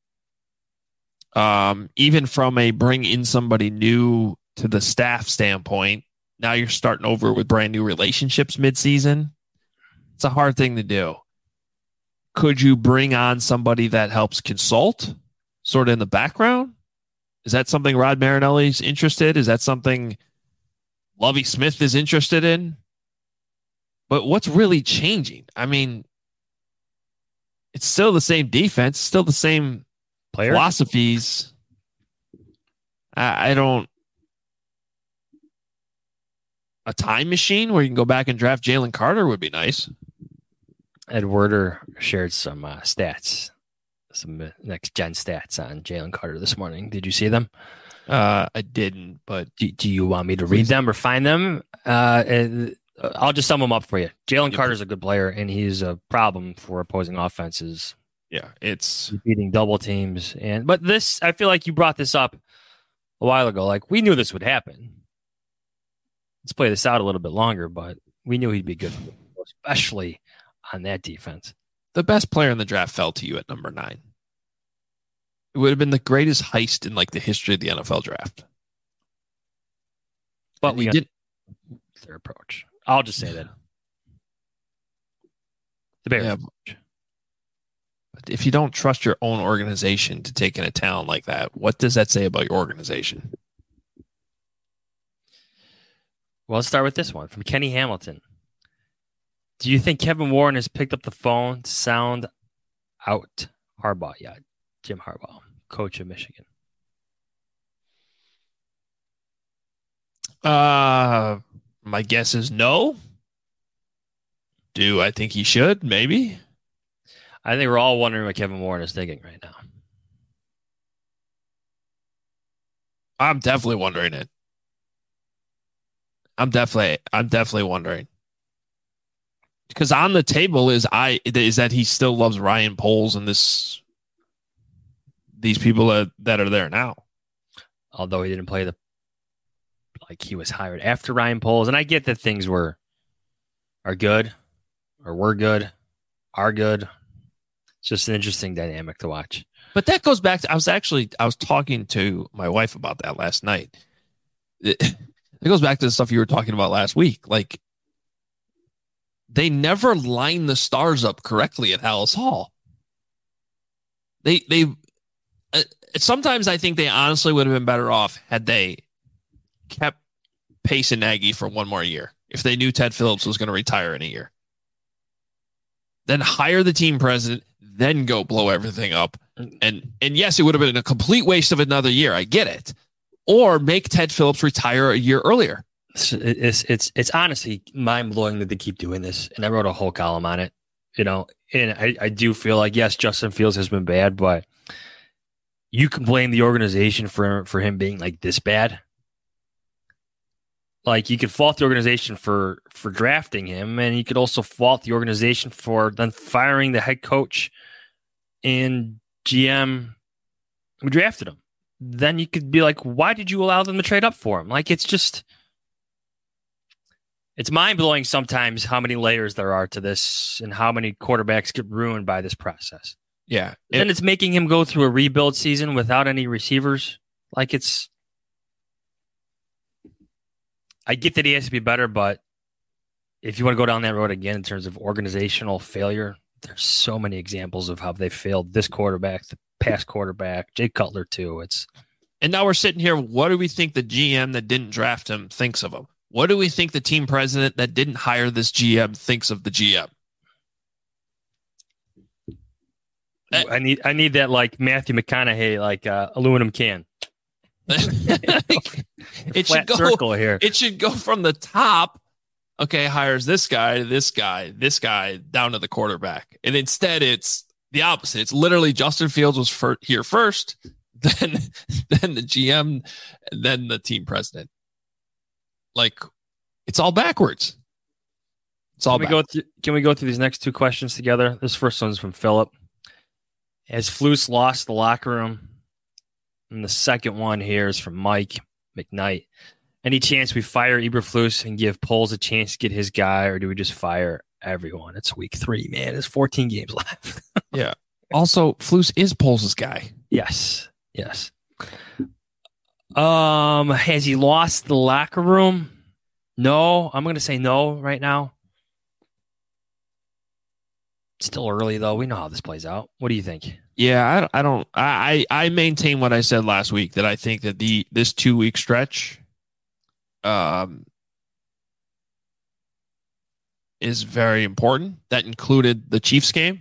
Even from a bring in somebody new to the staff standpoint, now you're starting over with brand new relationships midseason. It's a hard thing to do. Could you bring on somebody that helps consult sort of in the background? Is that something Rod Marinelli's interested? Is that something Lovie Smith is interested in? But what's really changing? I mean, it's still the same defense, still the same player philosophies. I don't. A time machine where you can go back and draft Jalen Carter would be nice. Ed Werder shared some stats, some next gen stats on Jalen Carter this morning. Did you see them? I didn't, but do you want me to read them or find them? I'll just sum them up for you. Jalen Carter's a good player, and he's a problem for opposing offenses. Yeah, it's beating double teams. But this, I feel like you brought this up a while ago. Like, we knew this would happen. Let's play this out a little bit longer, but we knew he'd be good, especially on that defense. The best player in the draft fell to you at number 9. It would have been the greatest heist in like the history of the NFL draft. But we did their approach. I'll just say that the Bears. Yeah. But if you don't trust your own organization to take in a talent like that, what does that say about your organization? Well, let's start with this one from Kenny Hamilton. Do you think Kevin Warren has picked up the phone to sound out Harbaugh yet? Jim Harbaugh, coach of Michigan. My guess is no. Do I think he should? Maybe. I think we're all wondering what Kevin Warren is thinking right now. I'm definitely wondering it. I'm definitely wondering. Because on the table is that he still loves Ryan Poles and these people that are there now. Although he didn't play he was hired after Ryan Poles. And I get that things are good. It's just an interesting dynamic to watch. But that goes back to, I was talking to my wife about that last night. It goes back to the stuff you were talking about last week. Like, they never line the stars up correctly at Hallis Hall. They sometimes I think they honestly would have been better off had they kept Pace and Nagy for one more year. If they knew Ted Phillips was going to retire in a year, then hire the team president, then go blow everything up. And yes, it would have been a complete waste of another year. I get it. Or make Ted Phillips retire a year earlier. It's honestly mind blowing that they keep doing this. And I wrote a whole column on it, and I do feel like, yes, Justin Fields has been bad, but you can blame the organization for him being like this bad. Like, you could fault the organization for drafting him, and you could also fault the organization for then firing the head coach and GM who drafted him. Then you could be like, why did you allow them to trade up for him? Like, it's mind-blowing sometimes how many layers there are to this and how many quarterbacks get ruined by this process. Yeah. And it's making him go through a rebuild season without any receivers. Like, I get that he has to be better, but if you want to go down that road again in terms of organizational failure, there's so many examples of how they failed this quarterback, the past quarterback, Jay Cutler too. And now we're sitting here. What do we think the GM that didn't draft him thinks of him? What do we think the team president that didn't hire this GM thinks of the GM? I need that, like, Matthew McConaughey, like aluminum can. It should go circle here. It should go from the top. Okay, hires this guy, down to the quarterback. And instead, it's the opposite. It's literally Justin Fields was here first, then the GM, and then the team president. Like, it's all backwards. Can we go through these next two questions together? This first one's from Philip. Has Flus lost the locker room? And the second one here is from Mike McKnight. Any chance we fire Eberflus and give Poles a chance to get his guy, or do we just fire everyone? It's week 3, man. There's 14 games left. Yeah. Also, Flus is Poles' guy. Yes. Has he lost the locker room? No. I'm going to say no right now. Still early, though. We know how this plays out. What do you think? Yeah, I maintain what I said last week, that I think that this 2-week stretch is very important. That included the Chiefs game.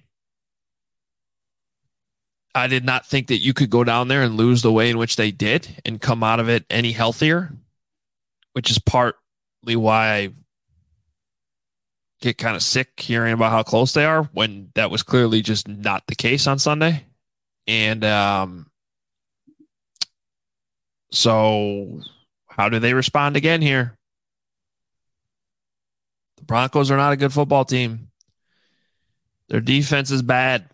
I did not think that you could go down there and lose the way in which they did and come out of it any healthier, which is partly why I get kind of sick hearing about how close they are, when that was clearly just not the case on Sunday. And so how do they respond again here? The Broncos are not a good football team. Their defense is bad.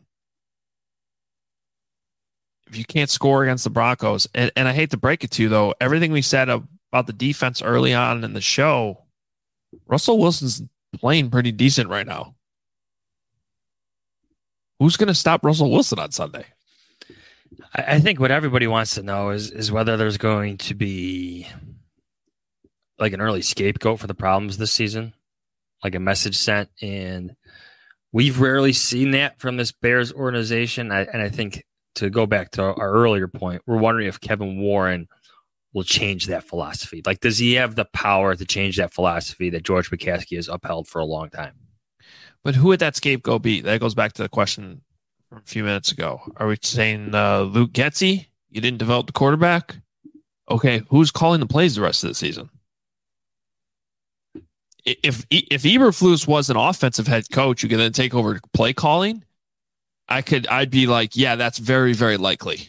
If you can't score against the Broncos, and I hate to break it to you, though, everything we said about the defense early on in the show, Russell Wilson's playing pretty decent right now. Who's going to stop Russell Wilson on Sunday? I think what everybody wants to know is whether there's going to be like an early scapegoat for the problems this season, like a message sent. And we've rarely seen that from this Bears organization. And I think to go back to our earlier point, we're wondering if Kevin Warren will change that philosophy. Like, does he have the power to change that philosophy that George McCaskey has upheld for a long time? But who would that scapegoat be? That goes back to the question from a few minutes ago. Are we saying Luke Getsy? You didn't develop the quarterback? Okay, who's calling the plays the rest of the season? If Eberflus was an offensive head coach who could then take over play calling, I'd be like, yeah, that's very, very likely.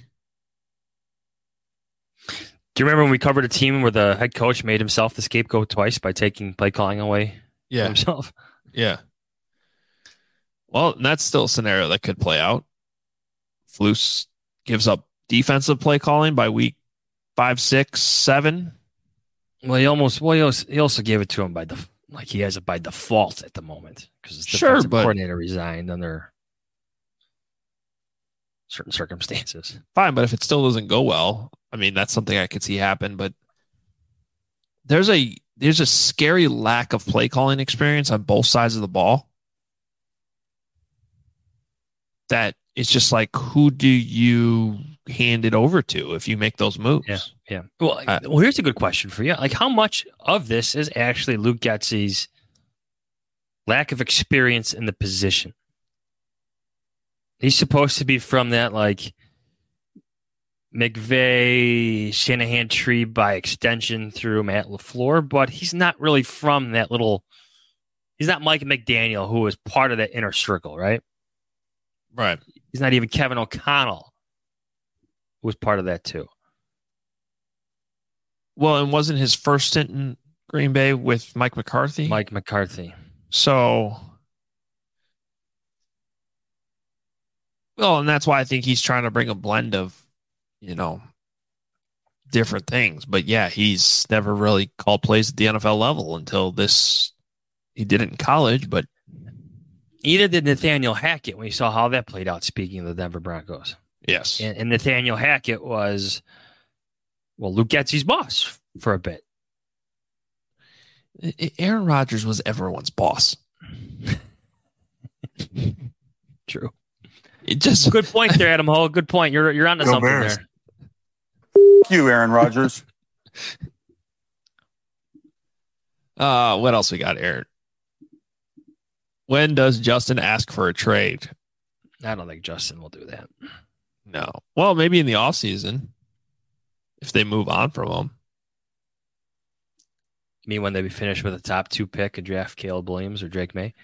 Do you remember when we covered a team where the head coach made himself the scapegoat twice by taking play calling away from himself? Yeah. Well, that's still a scenario that could play out. Flus gives up defensive play calling by week 5, 6, 7. Well, he also gave it to him he has it by default at the moment because his sure, defensive but coordinator resigned under certain circumstances. Fine, but if it still doesn't go well, I mean, that's something I could see happen. But there's a scary lack of play calling experience on both sides of the ball. That it's just like, who do you hand it over to if you make those moves? Yeah. Well, here's a good question for you. Like, how much of this is actually Luke Getsy's lack of experience in the position? He's supposed to be from that, like, McVay, Shanahan tree by extension through Matt LaFleur, but he's not really from that he's not Mike McDaniel, who was part of that inner circle, right? Right. He's not even Kevin O'Connell, who was part of that too. Well, and wasn't his first stint in Green Bay with Mike McCarthy? Mike McCarthy. So, well, and that's why I think he's trying to bring a blend of, different things. But yeah, he's never really called plays at the NFL level until this. He did it in college, but either did Nathaniel Hackett when you saw how that played out, speaking of the Denver Broncos. Yes. And Nathaniel Hackett was, Luke Getsy's boss for a bit. Aaron Rodgers was everyone's boss. True. Good point there, Adam Ho. Good point. You're onto something Bears. there. You, Aaron Rodgers. What else we got, Aaron? When does Justin ask for a trade? I don't think Justin will do that. No. Well, maybe in the offseason if they move on from him. You mean when they be finished with a top 2 pick and draft Caleb Williams or Drake May?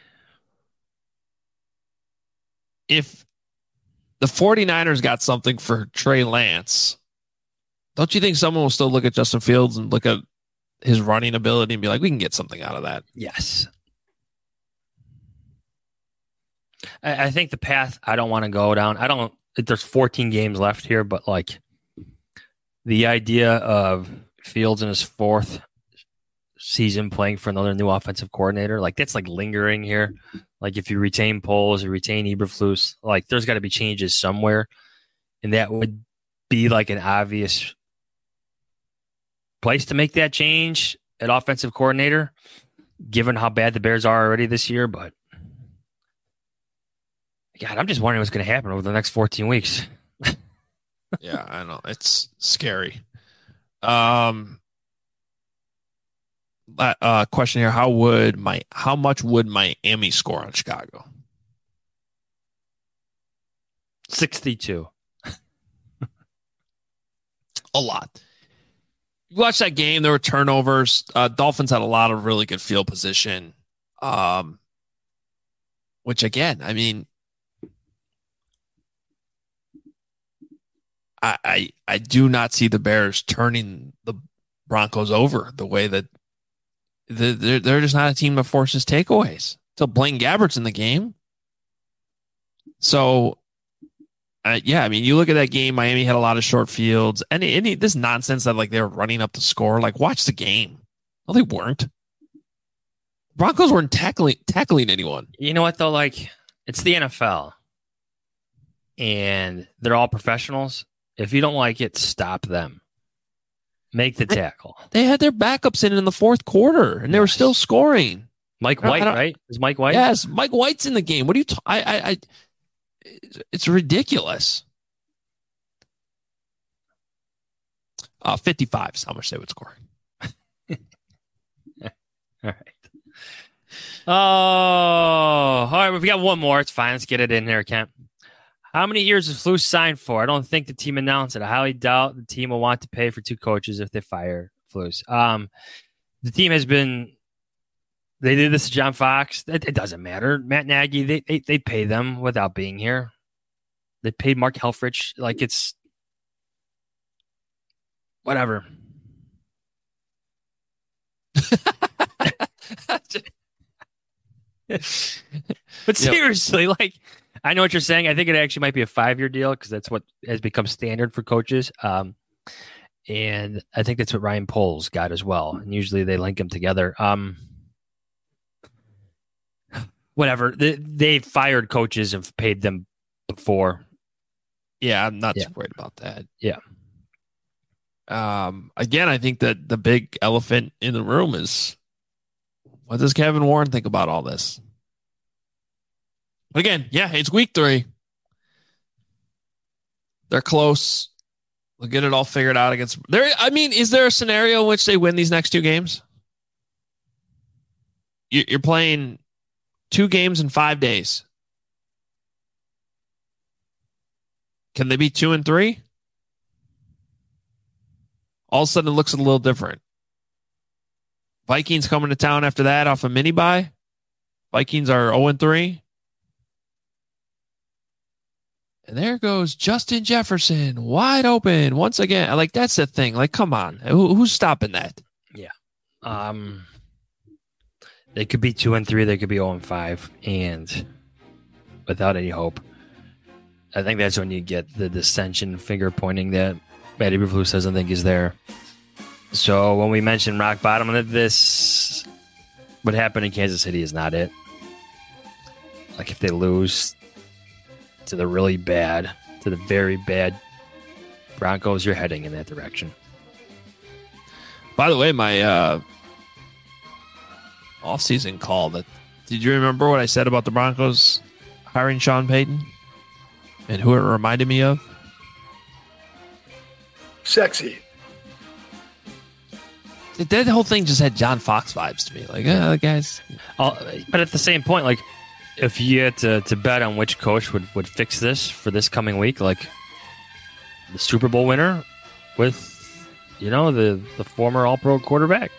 If the 49ers got something for Trey Lance, don't you think someone will still look at Justin Fields and look at his running ability and be like, we can get something out of that? Yes. I think the path I don't want to go down, there's 14 games left here, but like the idea of Fields in his 4th season playing for another new offensive coordinator, like that's like lingering here. Like if you retain Poles or retain Eberflus, like there's got to be changes somewhere. And that would be like an obvious place to make that change at offensive coordinator, given how bad the Bears are already this year. But God, I'm just wondering what's going to happen over the next 14 weeks. Yeah, I know. It's scary. Question here. How much would Miami score on Chicago? 62. A lot. You watch that game, there were turnovers. Dolphins had a lot of really good field position. Which again, I mean, I do not see the Bears turning the Broncos over the way that they're just not a team that forces takeaways. So Blaine Gabbert's in the game. So, yeah, I mean, you look at that game, Miami had a lot of short fields. And this nonsense that like they were running up the score, like watch the game. No, they weren't. Broncos weren't tackling anyone. You know what, though? Like, it's the NFL. And they're all professionals. If you don't like it, stop them. Make the tackle. They had their backups in the fourth quarter, and they were still scoring. Mike White, right? Is Mike White? Yes, Mike White's in the game. What are you? It's ridiculous. 55 is how much they would score. All right. Oh, all right. We've got one more. It's fine. Let's get it in there, Kent. How many years is Flus signed for? I don't think the team announced it. I highly doubt the team will want to pay for 2 coaches if they fire Flus. The team has been. They did this to John Fox. It doesn't matter. Matt Nagy. They pay them without being here. They paid Mark Helfrich. Like it's whatever. But seriously, like, I know what you're saying. I think it actually might be a 5-year deal because that's what has become standard for coaches. And I think that's what Ryan Poles got as well. And usually they link them together. Whatever. They fired coaches and paid them before. Yeah, I'm not too worried about that. Yeah. Again, I think that the big elephant in the room is, what does Kevin Warren think about all this? But again, it's week 3. They're close. They'll get it all figured out against there. I mean, is there a scenario in which they win these next 2 games? You're playing 2 games in 5 days. Can they be 2-3? All of a sudden, it looks a little different. Vikings coming to town after that off a mini bye. Vikings are 0-3. And there goes Justin Jefferson, wide open once again. Like, that's the thing. Like, come on. Who's stopping that? Yeah. They could be 2-3. They could be 0-5. And without any hope. I think that's when you get the dissension finger pointing that Matt Eberflus doesn't think is there. So when we mentioned rock bottom, this what happened in Kansas City is not it. Like if they lose to the really bad, to the very bad Broncos, you're heading in that direction. By the way, my off-season call, did you remember what I said about the Broncos hiring Sean Payton? And who it reminded me of? Sexy. That whole thing just had John Fox vibes to me. Like, guys. But at the same point, like, if you had to bet on which coach would fix this for this coming week, like the Super Bowl winner with, the former All-Pro quarterback.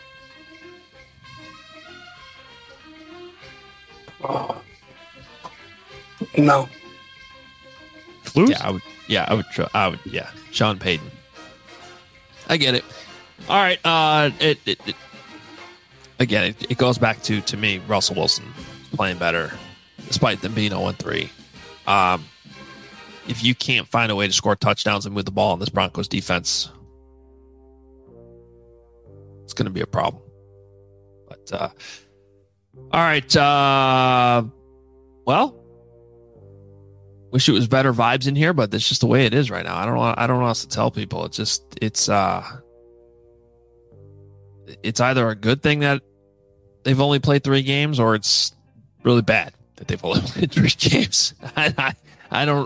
No. Flus? I would. Sean Payton. I get it. All right. It goes back to me, Russell Wilson playing better, despite them being 0-3. If you can't find a way to score touchdowns and move the ball in this Broncos defense, it's going to be a problem. But all right. Well. Wish it was better vibes in here, but that's just the way it is right now. I don't know what else to tell people. It's either a good thing that they've only played 3 games, or it's really bad that they've only played 3 games. I don't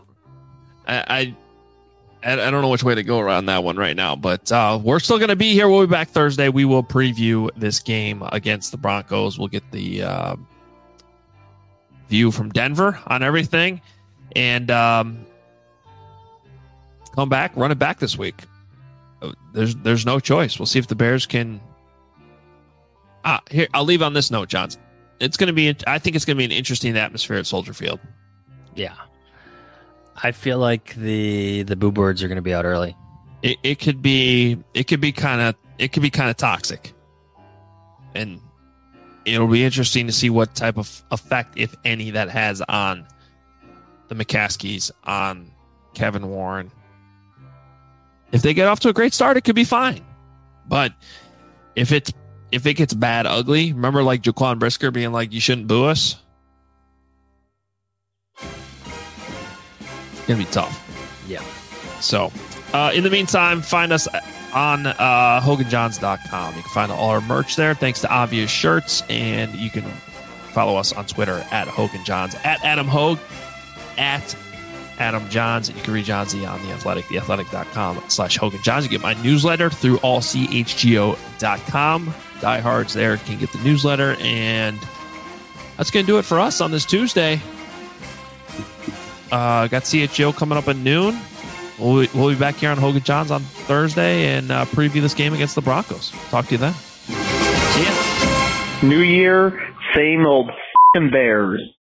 know which way to go around that one right now, but we're still going to be here. We'll be back Thursday. We will preview this game against the Broncos. We'll get the view from Denver on everything. And come back, run it back this week. There's no choice. We'll see if the Bears can. Here, I'll leave on this note, John. It's going to be. I think it's going to be an interesting atmosphere at Soldier Field. Yeah, I feel like the Boo Birds are going to be out early. It could be kind of toxic, and it'll be interesting to see what type of effect, if any, that has on the McCaskies, on Kevin Warren. If they get off to a great start, it could be fine. But if it gets bad, ugly, remember like Jaquan Brisker being like, you shouldn't boo us? It's going to be tough. Yeah. So, in the meantime, find us on HoganJohns.com. You can find all our merch there. Thanks to Obvious Shirts. And you can follow us on Twitter at HoganJohns, at Adam Hogue, at Adam Johns. You can read Johnsy on The Athletic, theathletic.com/HoganJohns. You get my newsletter through allchgo.com. Diehards there can get the newsletter. And that's going to do it for us on this Tuesday. Got CHGO coming up at noon. We'll be back here on Hogan Johns on Thursday and preview this game against the Broncos. Talk to you then. See ya. New year, same old f***ing Bears.